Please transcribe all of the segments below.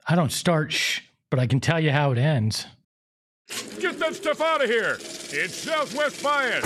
I don't start but I can tell you how it ends. Get that stuff out of here. It's Southwest Bias.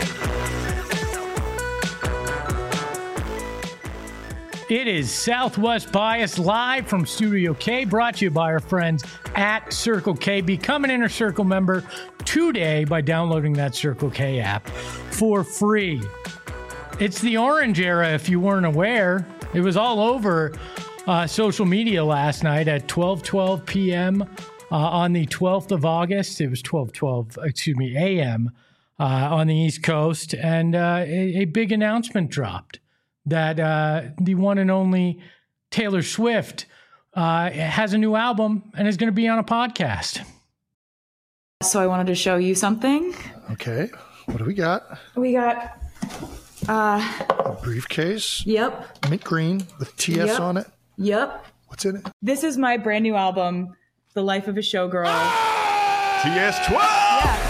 It is Southwest Bias live from Studio K, brought to you by our friends at Circle K. Become an Inner Circle member today by downloading that Circle K app for free. It's the orange era, if you weren't aware. It was all over social media last night at 12:12 p.m. On the 12th of August. It was 12:12 a.m. On the East Coast. And a big announcement dropped that the one and only Taylor Swift has a new album and is going to be on a podcast. So I wanted to show you something. Okay. What do we got? We got a briefcase. Yep. Mint green with TS on it. Yep. What's in it? This is my brand new album, The Life of a Showgirl. TS12!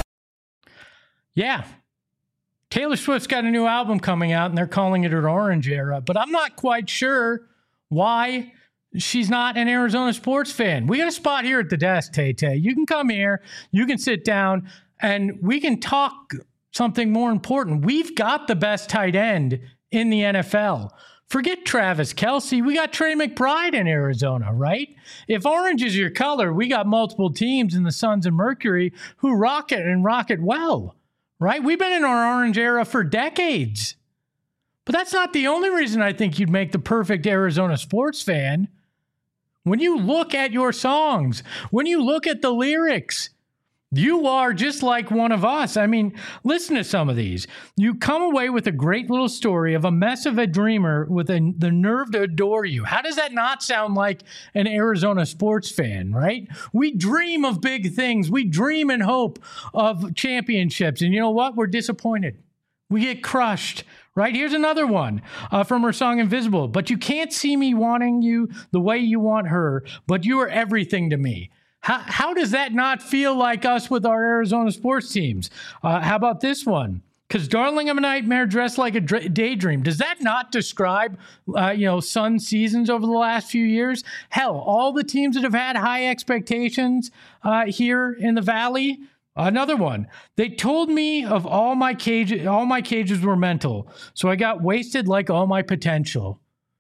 Yeah. Taylor Swift's got a new album coming out, and they're calling it an orange era, but I'm not quite sure why she's not an Arizona sports fan. We got a spot here at the desk, Tay-Tay. You can come here, you can sit down, and we can talk something more important. We've got the best tight end in the NFL. Forget Travis Kelce. We got Trey McBride in Arizona, right? If orange is your color, we got multiple teams in the Suns and Mercury who rock it and rock it well. Right? We've been in our orange era for decades. But that's not the only reason I think you'd make the perfect Arizona sports fan. When you look at your songs, when you look at the lyrics, you are just like one of us. I mean, listen to some of these. You come away with a great little story of a mess of a dreamer with the nerve to adore you. How does that not sound like an Arizona sports fan, right? We dream of big things. We dream and hope of championships. And you know what? We're disappointed. We get crushed, right? Here's another one from her song Invisible. But you can't see me wanting you the way you want her, but you are everything to me. How does that not feel like us with our Arizona sports teams? How about this one? Because darling, I'm a nightmare dressed like a daydream. Does that not describe, Sun seasons over the last few years? Hell, all the teams that have had high expectations here in the Valley. Another one. They told me of all my cages were mental, so I got wasted like all my potential.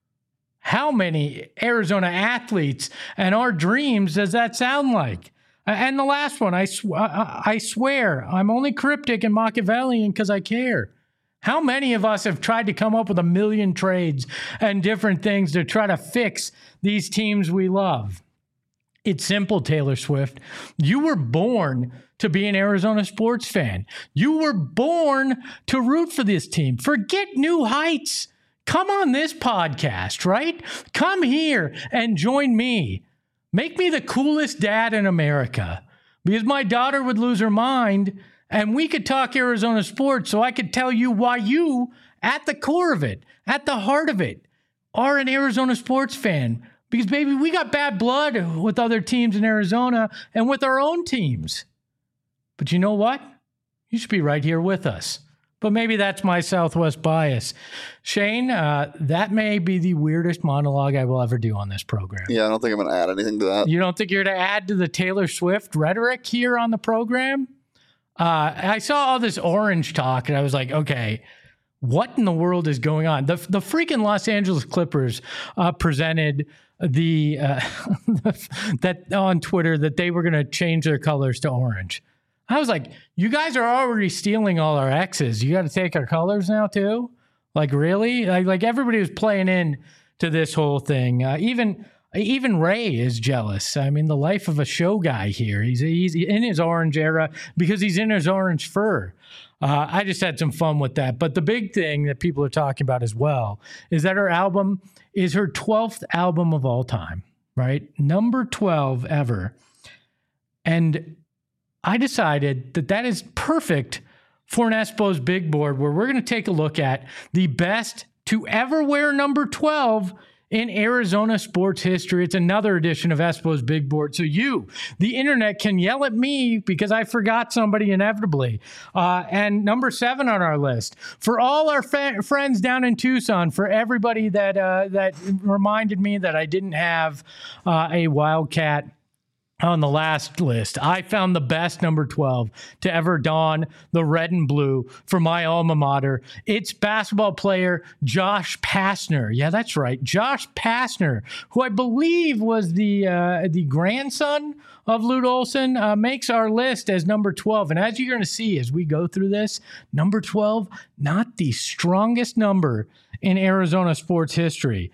How many Arizona athletes and our dreams does that sound like? And the last one, I swear, I'm only cryptic and Machiavellian because I care. How many of us have tried to come up with a million trades and different things to try to fix these teams we love? It's simple, Taylor Swift. You were born to be an Arizona sports fan. You were born to root for this team. Forget New Heights. Come on this podcast, right? Come here and join me. Make me the coolest dad in America because my daughter would lose her mind and we could talk Arizona sports so I could tell you why you, at the core of it, at the heart of it, are an Arizona sports fan. Because, baby, we got bad blood with other teams in Arizona and with our own teams. But you know what? You should be right here with us. But maybe that's my Southwest bias. Shane, that may be the weirdest monologue I will ever do on this program. Yeah, I don't think I'm going to add anything to that. You don't think you're going to add to the Taylor Swift rhetoric here on the program? I saw all this orange talk, and I was like, okay, what in the world is going on? The freaking Los Angeles Clippers presented that on Twitter that they were going to change their colors to orange. I was like, you guys are already stealing all our X's. You got to take our colors now too? Like, really? Like everybody was playing in to this whole thing. Even Ray is jealous. I mean, the life of a show guy here. He's in his orange era because he's in his orange fur. I just had some fun with that. But the big thing that people are talking about as well is that her album is her 12th album of all time, right? Number 12 ever. And I decided that is perfect for an Espo's Big Board, where we're going to take a look at the best to ever wear number 12 in Arizona sports history. It's another edition of Espo's Big Board. So you, the internet, can yell at me because I forgot somebody inevitably. And number 7 on our list, for all our friends down in Tucson, for everybody that reminded me that I didn't have a Wildcat on the last list, I found the best number 12 to ever don the red and blue for my alma mater. It's basketball player Josh Pastner. Yeah, that's right. Josh Pastner, who I believe was the grandson of Lute Olson, makes our list as number 12. And as you're going to see as we go through this, number 12, not the strongest number in Arizona sports history.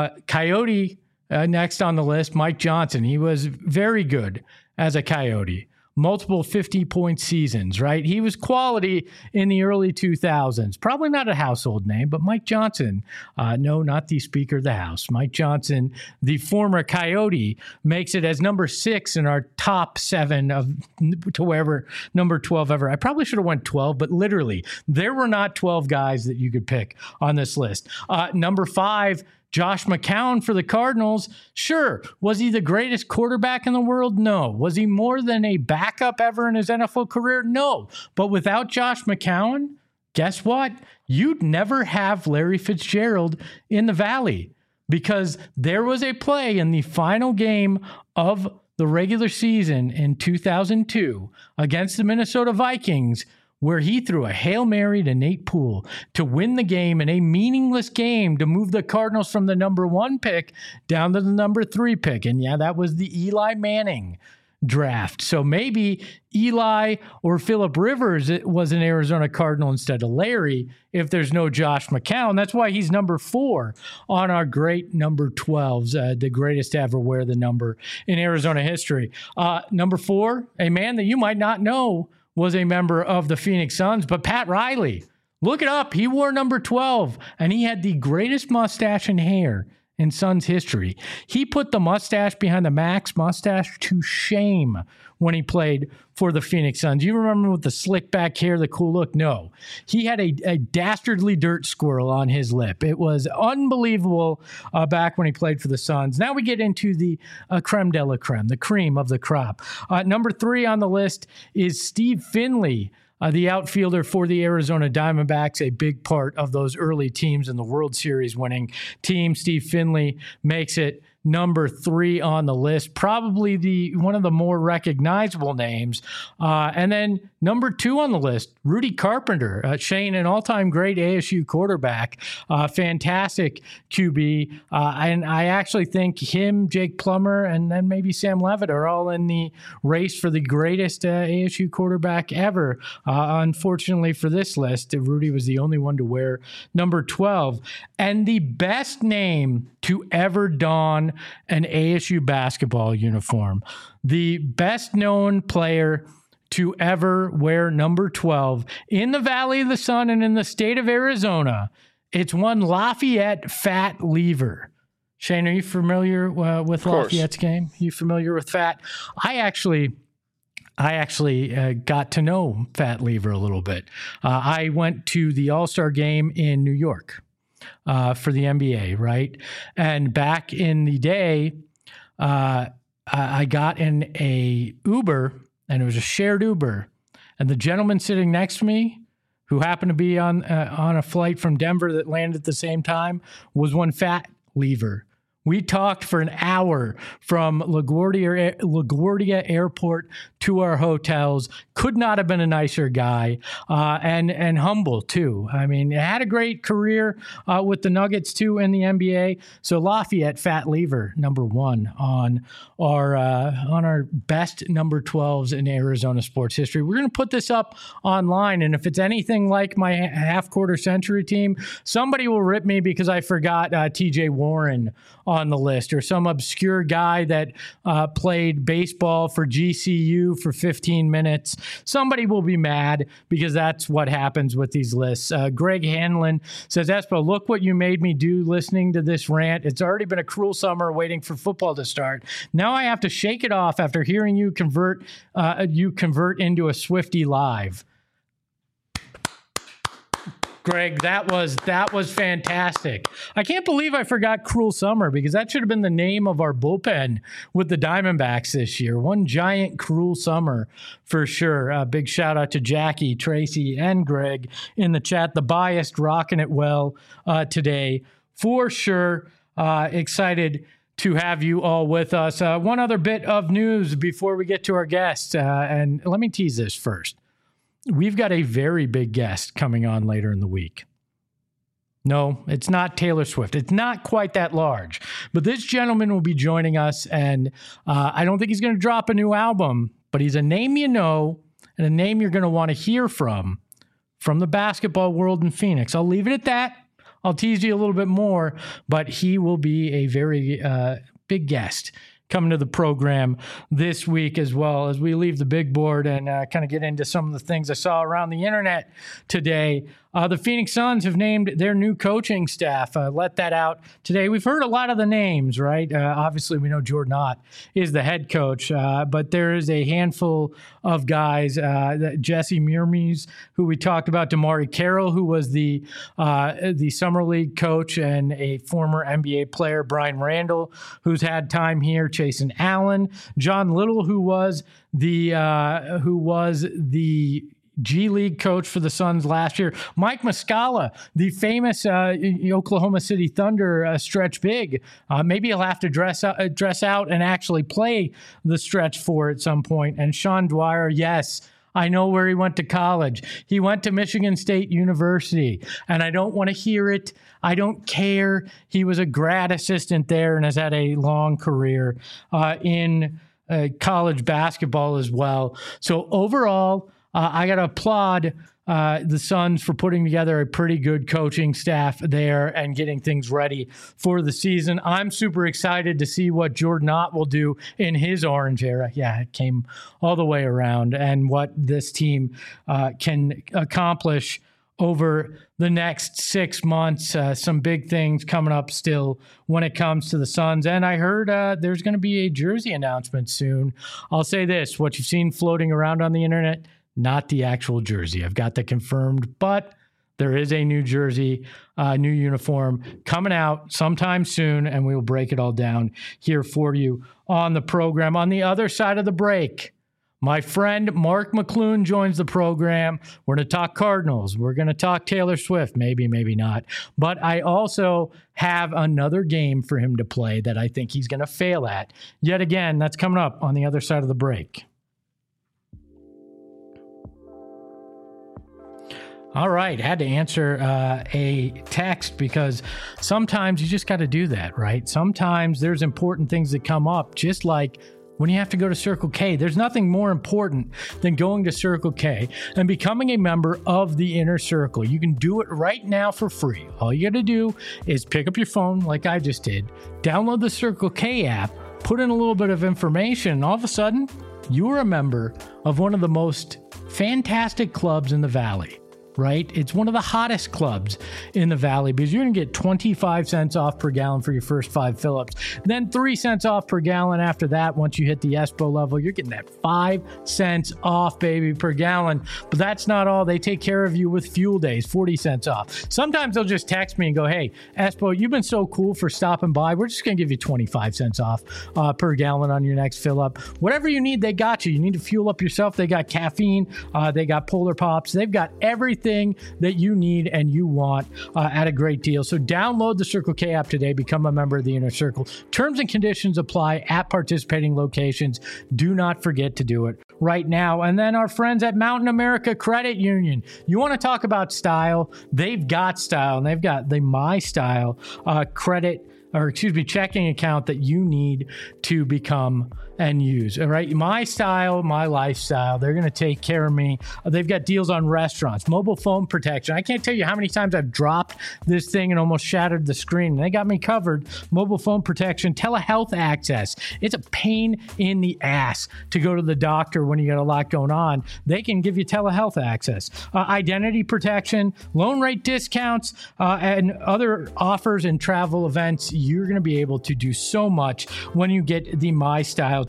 Coyote, next on the list, Mike Johnson. He was very good as a Coyote. Multiple 50-point seasons, right? He was quality in the early 2000s. Probably not a household name, but Mike Johnson, no, not the Speaker of the House. Mike Johnson, the former Coyote, makes it as number 6 in our top 7 of to wherever number 12 ever. I probably should have went 12, but literally, there were not 12 guys that you could pick on this list. Number 5, Josh McCown for the Cardinals. Sure. Was he the greatest quarterback in the world? No. Was he more than a backup ever in his NFL career? No. But without Josh McCown, guess what? You'd never have Larry Fitzgerald in the Valley, because there was a play in the final game of the regular season in 2002 against the Minnesota Vikings where he threw a Hail Mary to Nate Poole to win the game in a meaningless game to move the Cardinals from the number 1 pick down to the number 3 pick. And yeah, that was the Eli Manning draft. So maybe Eli or Phillip Rivers was an Arizona Cardinal instead of Larry if there's no Josh McCown. That's why he's number 4 on our great number 12s, the greatest to ever wear the number in Arizona history. Number 4, a man that you might not know was a member of the Phoenix Suns, but Pat Riley. Look it up. He wore number 12, and he had the greatest mustache and hair in Suns history. He put the mustache behind the Max mustache to shame when he played for the Phoenix Suns. You remember with the slick back hair, the cool look? No. He had a dastardly dirt squirrel on his lip. It was unbelievable back when he played for the Suns. Now we get into the creme de la creme, the cream of the crop. Number 3 on the list is Steve Finley, the outfielder for the Arizona Diamondbacks, a big part of those early teams in the World Series winning team. Steve Finley makes it number 3 on the list, probably one of the more recognizable names. And then number 2 on the list, Rudy Carpenter, Shane, an all-time great ASU quarterback, fantastic QB. And I actually think him, Jake Plummer, and then maybe Sam Levitt are all in the race for the greatest ASU quarterback ever. Unfortunately for this list, Rudy was the only one to wear number 12. And the best name to ever don an ASU basketball uniform, the best known player to ever wear number 12 in the Valley of the Sun and in the state of Arizona, it's one Lafayette Fat Lever. Shane, are you familiar with Lafayette's game? You familiar with Fat? I actually got to know Fat Lever a little bit. I went to the All-Star game in New York for the NBA, right? And back in the day, I got in a Uber, and it was a shared Uber. And the gentleman sitting next to me, who happened to be on a flight from Denver that landed at the same time, was one Fat Lever. We talked for an hour from LaGuardia Airport to our hotels. Could not have been a nicer guy, and humble too. I mean, had a great career with the Nuggets too in the NBA. So Lafayette Fat Lever, number 1 on our best number 12s in Arizona sports history. We're going to put this up online, and if it's anything like my half-quarter century team, somebody will rip me because I forgot TJ Warren on the list, or some obscure guy that played baseball for GCU for 15 minutes. Somebody will be mad because that's what happens with these lists. Greg Hanlon says, Espo, look what you made me do listening to this rant. It's already been a cruel summer waiting for football to start. Now I have to shake it off after hearing you convert into a Swiftie live. Greg, that was fantastic. I can't believe I forgot Cruel Summer, because that should have been the name of our bullpen with the Diamondbacks this year. One giant Cruel Summer for sure. Big shout out to Jackie, Tracy, and Greg in the chat. The Biased rocking it well today for sure. Excited to have you all with us. One other bit of news before we get to our guests, and let me tease this first. We've got a very big guest coming on later in the week. No, it's not Taylor Swift. It's not quite that large. But this gentleman will be joining us, and I don't think he's going to drop a new album, but he's a name you know and a name you're going to want to hear from the basketball world in Phoenix. I'll leave it at that. I'll tease you a little bit more, but he will be a very big guest coming to the program this week, as well as we leave the big board and kind of get into some of the things I saw around the internet today. The Phoenix Suns have named their new coaching staff. Let that out today. We've heard a lot of the names, right? Obviously, we know Jordan Ott is the head coach, but there is a handful of guys. Jesse Murmes, who we talked about, Damari Carroll, who was the Summer League coach and a former NBA player, Brian Randall, who's had time here, Chasen Allen, John Little, who was the G League coach for the Suns last year. Mike Muscala, the famous Oklahoma City Thunder stretch big. Maybe he'll have to dress out and actually play the stretch four at some point. And Sean Dwyer, yes, I know where he went to college. He went to Michigan State University, and I don't want to hear it. I don't care. He was a grad assistant there and has had a long career in college basketball as well. So overall, I got to applaud the Suns for putting together a pretty good coaching staff there and getting things ready for the season. I'm super excited to see what Jordan Ott will do in his Orange era. Yeah, it came all the way around, and what this team can accomplish over the next 6 months. Some big things coming up still when it comes to the Suns. And I heard there's going to be a jersey announcement soon. I'll say this, what you've seen floating around on the internet, not the actual jersey. I've got that confirmed, but there is a new jersey, new uniform coming out sometime soon, and we will break it all down here for you on the program. On the other side of the break, my friend Mark McClune joins the program. We're going to talk Cardinals. We're going to talk Taylor Swift, maybe, maybe not. But I also have another game for him to play that I think he's going to fail at. Yet again, that's coming up on the other side of the break. All right, had to answer a text because sometimes you just got to do that, right? Sometimes there's important things that come up, just like when you have to go to Circle K. There's nothing more important than going to Circle K and becoming a member of the Inner Circle. You can do it right now for free. All you got to do is pick up your phone like I just did, download the Circle K app, put in a little bit of information, and all of a sudden, you're a member of one of the most fantastic clubs in the Valley. Right? It's one of the hottest clubs in the Valley because you're going to get 25 cents off per gallon for your first 5 fill-ups. Then 3 cents off per gallon after that. Once you hit the ESPO level, you're getting that 5 cents off, baby, per gallon. But that's not all. They take care of you with fuel days, 40 cents off. Sometimes they'll just text me and go, hey, ESPO, you've been so cool for stopping by. We're just going to give you 25 cents off per gallon on your next fill-up. Whatever you need, they got you. You need to fuel up yourself. They got caffeine. They got Polar Pops. They've got everything that you need and you want at a great deal. So download the Circle K app today. Become a member of the Inner Circle. Terms and conditions apply at participating locations. Do not forget to do it right now. And then our friends at Mountain America Credit Union. You want to talk about style? They've got style, and they've got the My Style checking account that you need to become and use. All right. My style, my lifestyle. They're going to take care of me. They've got deals on restaurants, mobile phone protection. I can't tell you how many times I've dropped this thing and almost shattered the screen. They got me covered. Mobile phone protection, telehealth access. It's a pain in the ass to go to the doctor when you got a lot going on. They can give you telehealth access, identity protection, loan rate discounts, and other offers and travel events. You're going to be able to do so much when you get the My Style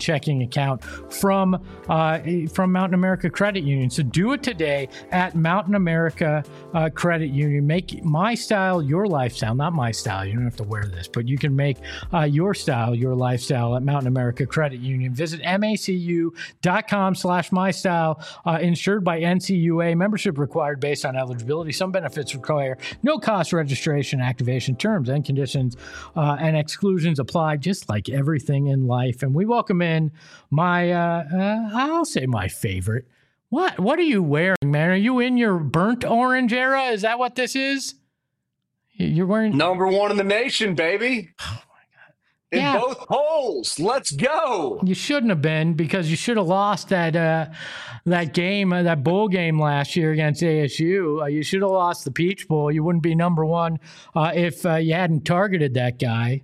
checking account from Mountain America Credit Union. So do it today at Mountain America Credit Union. Make my style your lifestyle, not my style. You don't have to wear this, but you can make your style your lifestyle at Mountain America Credit Union. Visit macu.com/mystyle. Insured by NCUA. Membership required based on eligibility. Some benefits require no cost registration, activation. Terms and conditions and exclusions apply, just like everything in life. And we welcome in my, I'll say my favorite. What are you wearing, man? Are you in your burnt orange era? Is that what this is? You're wearing number one in the nation, baby. Oh my God! In both polls, let's go. You shouldn't have been, because you should have lost that game, that bowl game last year against ASU. You should have lost the Peach Bowl. You wouldn't be number one if you hadn't targeted that guy.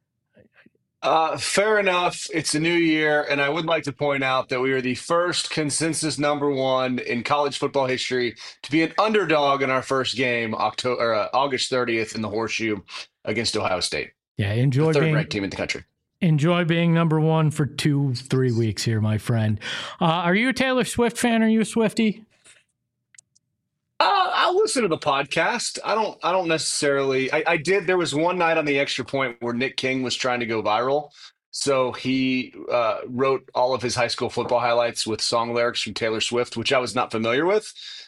Fair enough. It's a new year, and I would like to point out that we are the first consensus number one in college football history to be an underdog in our first game, August 30th in the Horseshoe against Ohio State. Yeah, enjoy the being third-ranked team in the country. Enjoy being number one for 2-3 weeks here, my friend. Are you a Taylor Swift fan? Are you a Swiftie? I'll listen to the podcast. I don't necessarily. I did. There was one night on the Extra Point where Nick King was trying to go viral. So he wrote all of his high school football highlights with song lyrics from Taylor Swift, which I was not familiar with.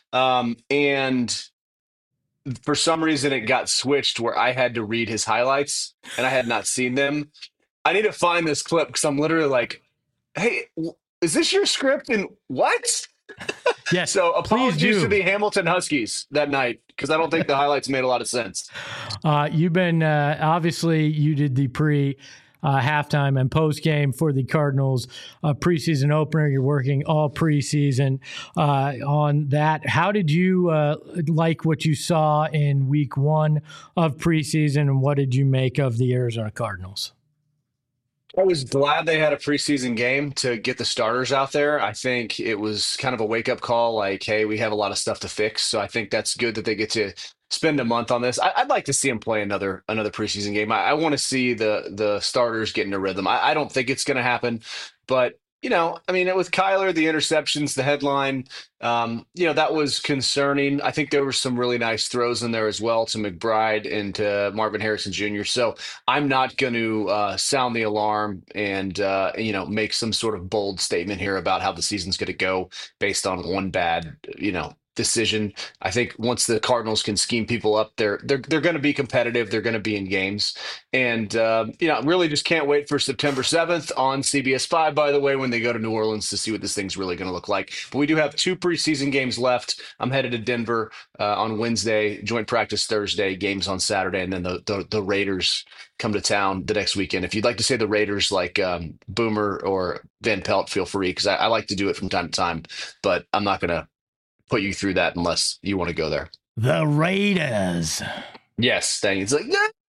And for some reason, it got switched where I had to read his highlights and I had not seen them. I need to find this clip because I'm literally like, hey, is this your script? And what? Yes. So apologies to the Hamilton Huskies that night, because I don't think the highlights made a lot of sense. You've been obviously you did the halftime and post game for the Cardinals preseason opener. You're working all preseason on that. How did you like what you saw in week one of preseason, and what did you make of the Arizona Cardinals? I was glad they had a preseason game to get the starters out there. I think it was kind of a wake-up call, like, hey, we have a lot of stuff to fix. So I think that's good that they get to spend a month on this. I'd like to see them play another preseason game. I want to see the starters get in a rhythm. I don't think it's going to happen, but I mean, with Kyler, the interceptions, the headline, that was concerning. I think there were some really nice throws in there as well to McBride and to Marvin Harrison Jr. So I'm not going to sound the alarm and, make some sort of bold statement here about how the season's going to go based on one bad, decision. I think once the Cardinals can scheme people up, they're going to be competitive. They're going to be in games, and really just can't wait for September 7th on CBS 5. By the way, when they go to New Orleans to see what this thing's really going to look like. But we do have 2 preseason games left. I'm headed to Denver on Wednesday, joint practice Thursday, games on Saturday, and then the Raiders come to town the next weekend. If you'd like to say the Raiders like Boomer or Van Pelt, feel free, because I like to do it from time to time, but I'm not going to put you through that unless you want to go there. The Raiders. Yes, dang. It's like,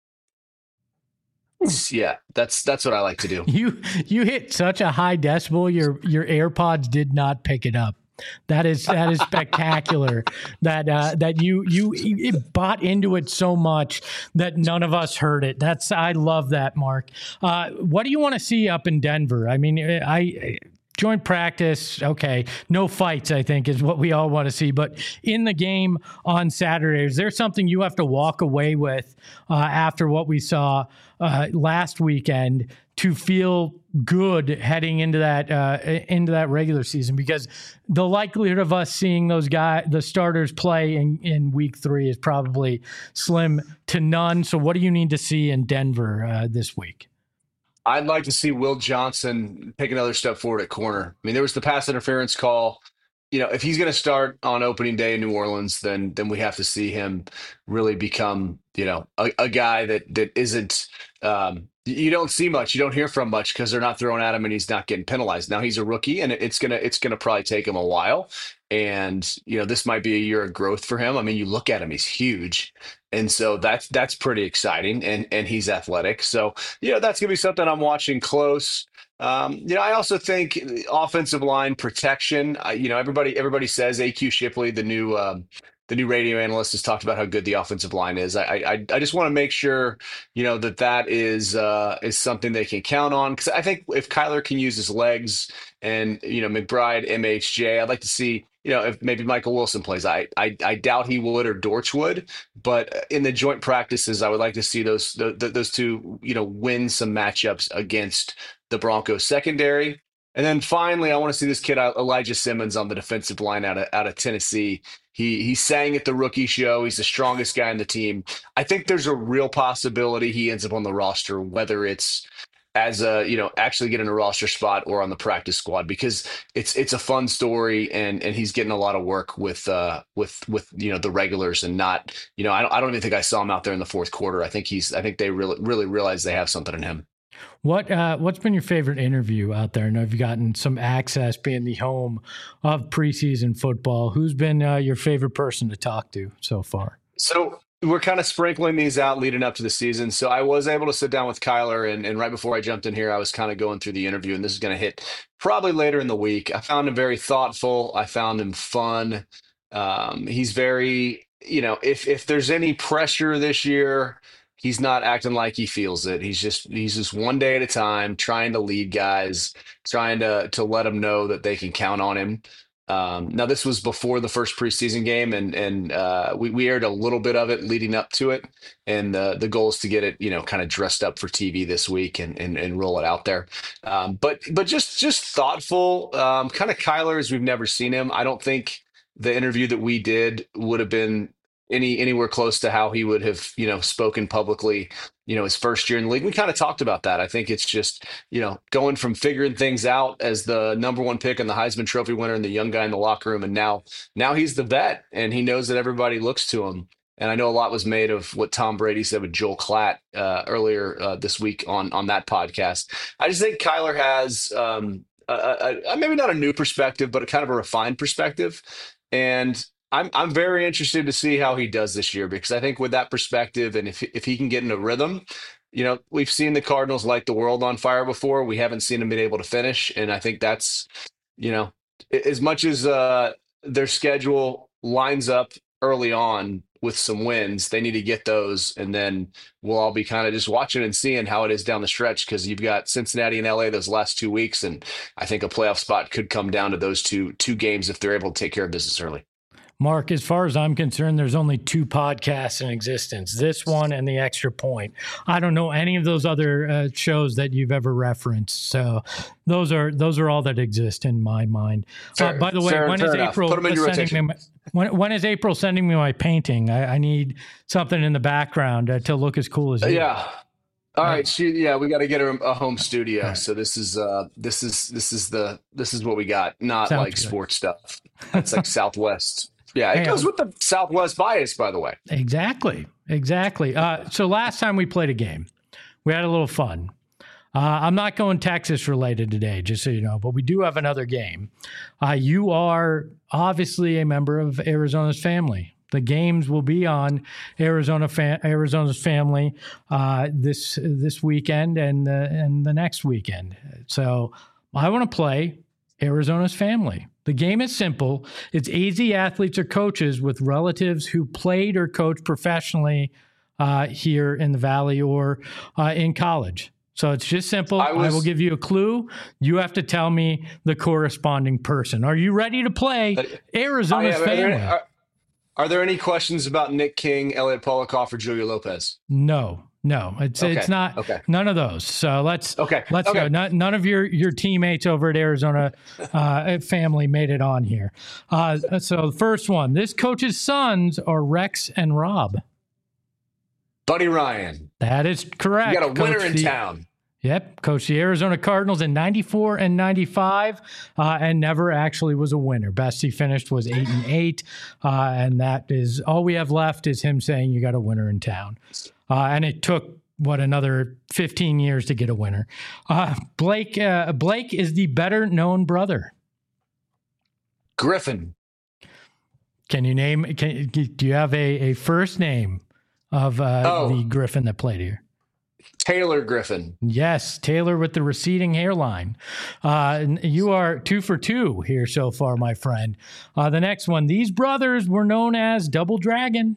yeah, that's what I like to do. You hit such a high decibel, your AirPods did not pick it up. That is spectacular. that you bought into it so much that none of us heard it. I love that, Mark. What do you want to see up in Denver? I mean, joint practice, okay. No fights, I think, is what we all want to see. But in the game on Saturday, is there something you have to walk away with after what we saw last weekend to feel good heading into that regular season? Because the likelihood of us seeing the starters play in week 3 is probably slim to none. So what do you need to see in Denver this week? I'd like to see Will Johnson take another step forward at corner. I mean, there was the pass interference call. If he's going to start on opening day in New Orleans, then we have to see him really become, a guy that isn't, you don't see much, you don't hear from much because they're not throwing at him and he's not getting penalized. Now he's a rookie and it's going to probably take him a while. And, this might be a year of growth for him. I mean, you look at him, he's huge. And so that's pretty exciting. And he's athletic. So, that's going to be something I'm watching close. I also think offensive line protection, everybody says AQ Shipley, the new the new radio analyst has talked about how good the offensive line is. I just want to make sure, that is something they can count on. Because I think if Kyler can use his legs and, McBride, MHJ, I'd like to see, if maybe Michael Wilson plays. I doubt he would or Dortch would. But in the joint practices, I would like to see those two, win some matchups against the Broncos secondary. And then finally, I want to see this kid, Elijah Simmons, on the defensive line out of Tennessee. He sang at the rookie show. He's the strongest guy on the team. I think there's a real possibility he ends up on the roster, whether it's as actually getting a roster spot or on the practice squad, because it's a fun story and he's getting a lot of work with the regulars and not, I don't even think I saw him out there in the fourth quarter. I think they really realize they have something in him. What's been your favorite interview out there? I know you've gotten some access being the home of preseason football. Who's been your favorite person to talk to so far? So we're kind of sprinkling these out leading up to the season. So I was able to sit down with Kyler, and right before I jumped in here, I was kind of going through the interview, and this is going to hit probably later in the week. I found him very thoughtful. I found him fun. He's very, if there's any pressure this year, he's not acting like he feels it. He's just one day at a time, trying to lead guys, trying to let them know that they can count on him. Now, this was before the first preseason game, and we aired a little bit of it leading up to it. And the goal is to get it, kind of dressed up for TV this week and roll it out there. But just thoughtful, kind of Kyler as we've never seen him. I don't think the interview that we did would have been anywhere close to how he would have, spoken publicly, his first year in the league. We kind of talked about that. I think it's just, going from figuring things out as the number one pick and the Heisman Trophy winner and the young guy in the locker room. And now he's the vet and he knows that everybody looks to him. And I know a lot was made of what Tom Brady said with Joel Klatt earlier this week on that podcast. I just think Kyler has maybe not a new perspective, but a kind of a refined perspective. And I'm very interested to see how he does this year, because I think with that perspective and if he can get in a rhythm, we've seen the Cardinals light the world on fire before. We haven't seen them be able to finish. And I think that's, as much as their schedule lines up early on with some wins, they need to get those. And then we'll all be kind of just watching and seeing how it is down the stretch, because you've got Cincinnati and LA those last 2 weeks. And I think a playoff spot could come down to those two games if they're able to take care of business early. Mark, as far as I'm concerned, there's only 2 podcasts in existence, this one and The Extra Point. I don't know any of those other shows that you've ever referenced. So those are all that exist in my mind. By the way, when is April sending me when is April sending me my painting? I need something in the background to look as cool as you. Yeah. All right. We got to get her a home studio. Right. So this is what we got. Not Sounds like good. Sports stuff. It's like Southwest. Yeah, it goes with the Southwest bias, by the way. Exactly. So last time we played a game, we had a little fun. I'm not going Texas related today, just so you know, but we do have another game. You are obviously a member of Arizona's family. The games will be on Arizona's family this weekend and the next weekend. So I want to play Arizona's family. The game is simple. It's AZ athletes or coaches with relatives who played or coached professionally here in the Valley or in college. So it's just simple. I will give you a clue. You have to tell me the corresponding person. Are you ready to play Arizona's family? Are there any questions about Nick King, Elliot Polikoff, or Julio Lopez? No. It's not. Okay. None of those. So let's go. None of your teammates over at Arizona family made it on here. So the first one, this coach's sons are Rex and Rob. Buddy Ryan. That is correct. You got a winner in town. Yep, coached the Arizona Cardinals in 94 and 95 and never actually was a winner. Best he finished was 8-8, and that is all we have left is him saying you got a winner in town. And it took, another 15 years to get a winner. Blake is the better-known brother. Griffin. Can you name? Do you have a first name of the Griffin that played here? Taylor Griffin. Yes, Taylor with the receding hairline. You are 2 for 2 here so far, my friend. The next one, these brothers were known as Double Dragon.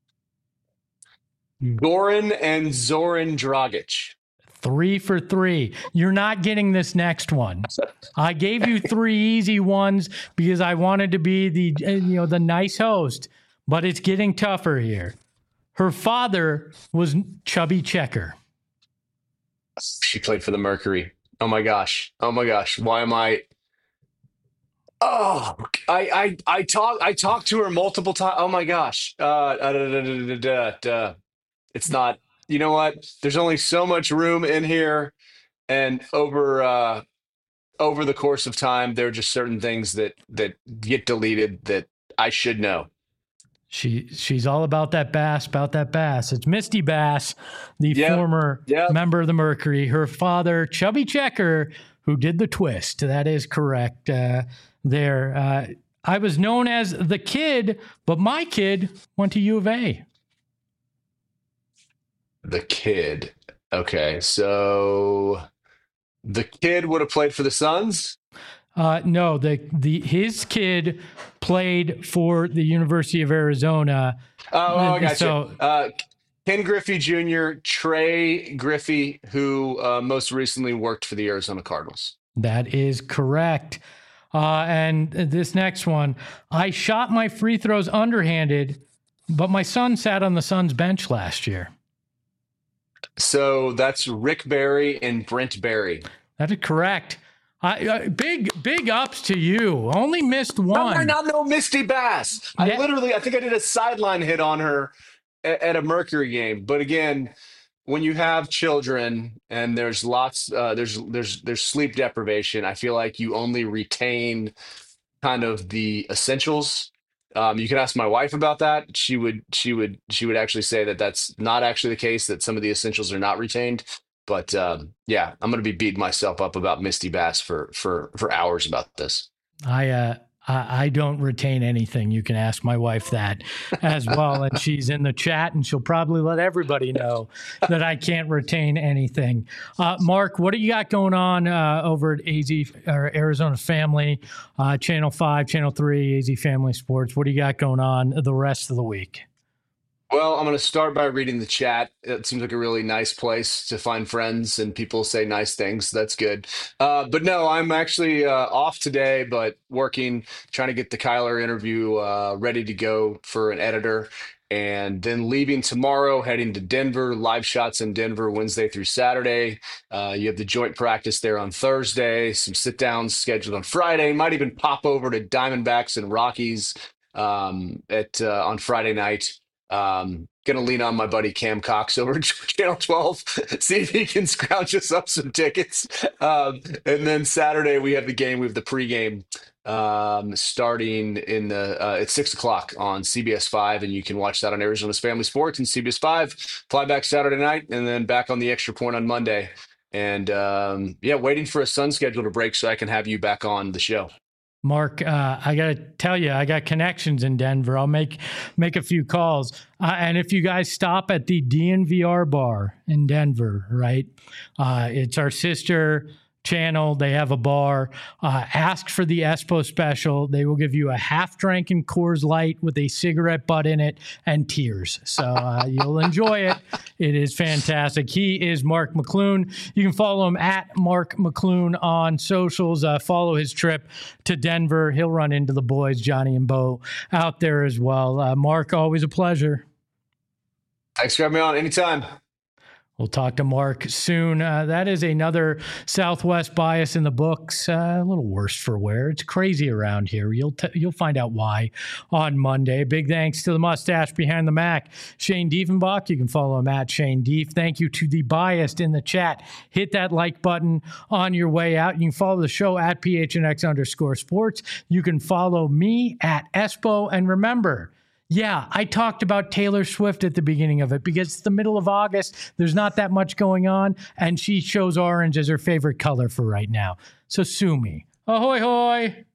Goran and Zoran Dragic. 3 for 3. You're not getting this next one. I gave you 3 easy ones because I wanted to be the nice host, but it's getting tougher here. Her father was Chubby Checker. She played for the Mercury. Oh my gosh. Why am I? Oh, I talked to her multiple times. Oh my gosh. It's not. You know what? There's only so much room in here, and over the course of time, there are just certain things that get deleted that I should know. She's all about that bass. It's Misty Bass, the former member of the Mercury. Her father, Chubby Checker, who did the twist. That is correct. I was known as the kid, but my kid went to U of A. The kid. Okay, so the kid would have played for the Suns? No, his kid played for the University of Arizona. I got you. Ken Griffey Jr., Trey Griffey, who most recently worked for the Arizona Cardinals. That is correct. And this next one, I shot my free throws underhanded, but my son sat on the Suns bench last year. So that's Rick Barry and Brent Barry. That is correct. Big ups to you. Only missed one. No Misty Bass. I think I did a sideline hit on her at a Mercury game. But again, when you have children and there's lots, there's sleep deprivation, I feel like you only retain kind of the essentials. You can ask my wife about that. She would actually say that that's not actually the case, that some of the essentials are not retained. But I'm going to be beating myself up about Misty Bass for hours about this. I don't retain anything. You can ask my wife that as well. And she's in the chat, and she'll probably let everybody know that I can't retain anything. Mark, what do you got going on over at AZ or Arizona Family, Channel 5, Channel 3, AZ Family Sports? What do you got going on the rest of the week? Well, I'm going to start by reading the chat. It seems like a really nice place to find friends and people say nice things. That's good. But no, I'm actually off today, but working, trying to get the Kyler interview ready to go for an editor. And then leaving tomorrow, heading to Denver, live shots in Denver Wednesday through Saturday. You have the joint practice there on Thursday, some sit downs scheduled on Friday. Might even pop over to Diamondbacks and Rockies on Friday night. Gonna lean on my buddy Cam Cox over at Channel 12, see if he can scrounge us up some tickets. And then Saturday we have the game. We have the pregame starting in at 6:00 on CBS 5, and you can watch that on Arizona's Family Sports and CBS 5. Fly back Saturday night, and then back on the Extra Point on Monday. And waiting for a Sun schedule to break so I can have you back on the show. Mark, I got to tell you, I got connections in Denver. I'll make a few calls. And if you guys stop at the DNVR bar in Denver, right? It's our sister channel. They have a bar. Ask for the Espo special. They will give you a half-drinking Coors Light with a cigarette butt in it and tears. So you'll enjoy it. It is fantastic. He is Mark McClune. You can follow him at Mark McClune on socials. Follow his trip to Denver. He'll run into the boys, Johnny and Bo, out there as well. Mark, always a pleasure. Thanks for having me on. Anytime. We'll talk to Mark soon. That is another Southwest bias in the books. A little worse for wear. It's crazy around here. You'll find out why on Monday. Big thanks to the mustache behind the Mac, Shane Diefenbach. You can follow him at Shane Dief. Thank you to the biased in the chat. Hit that like button on your way out. You can follow the show at PHNX_sports. You can follow me at Espo. And remember, yeah, I talked about Taylor Swift at the beginning of it because it's the middle of August. There's not that much going on, and she chose orange as her favorite color for right now. So sue me. Ahoy, hoy.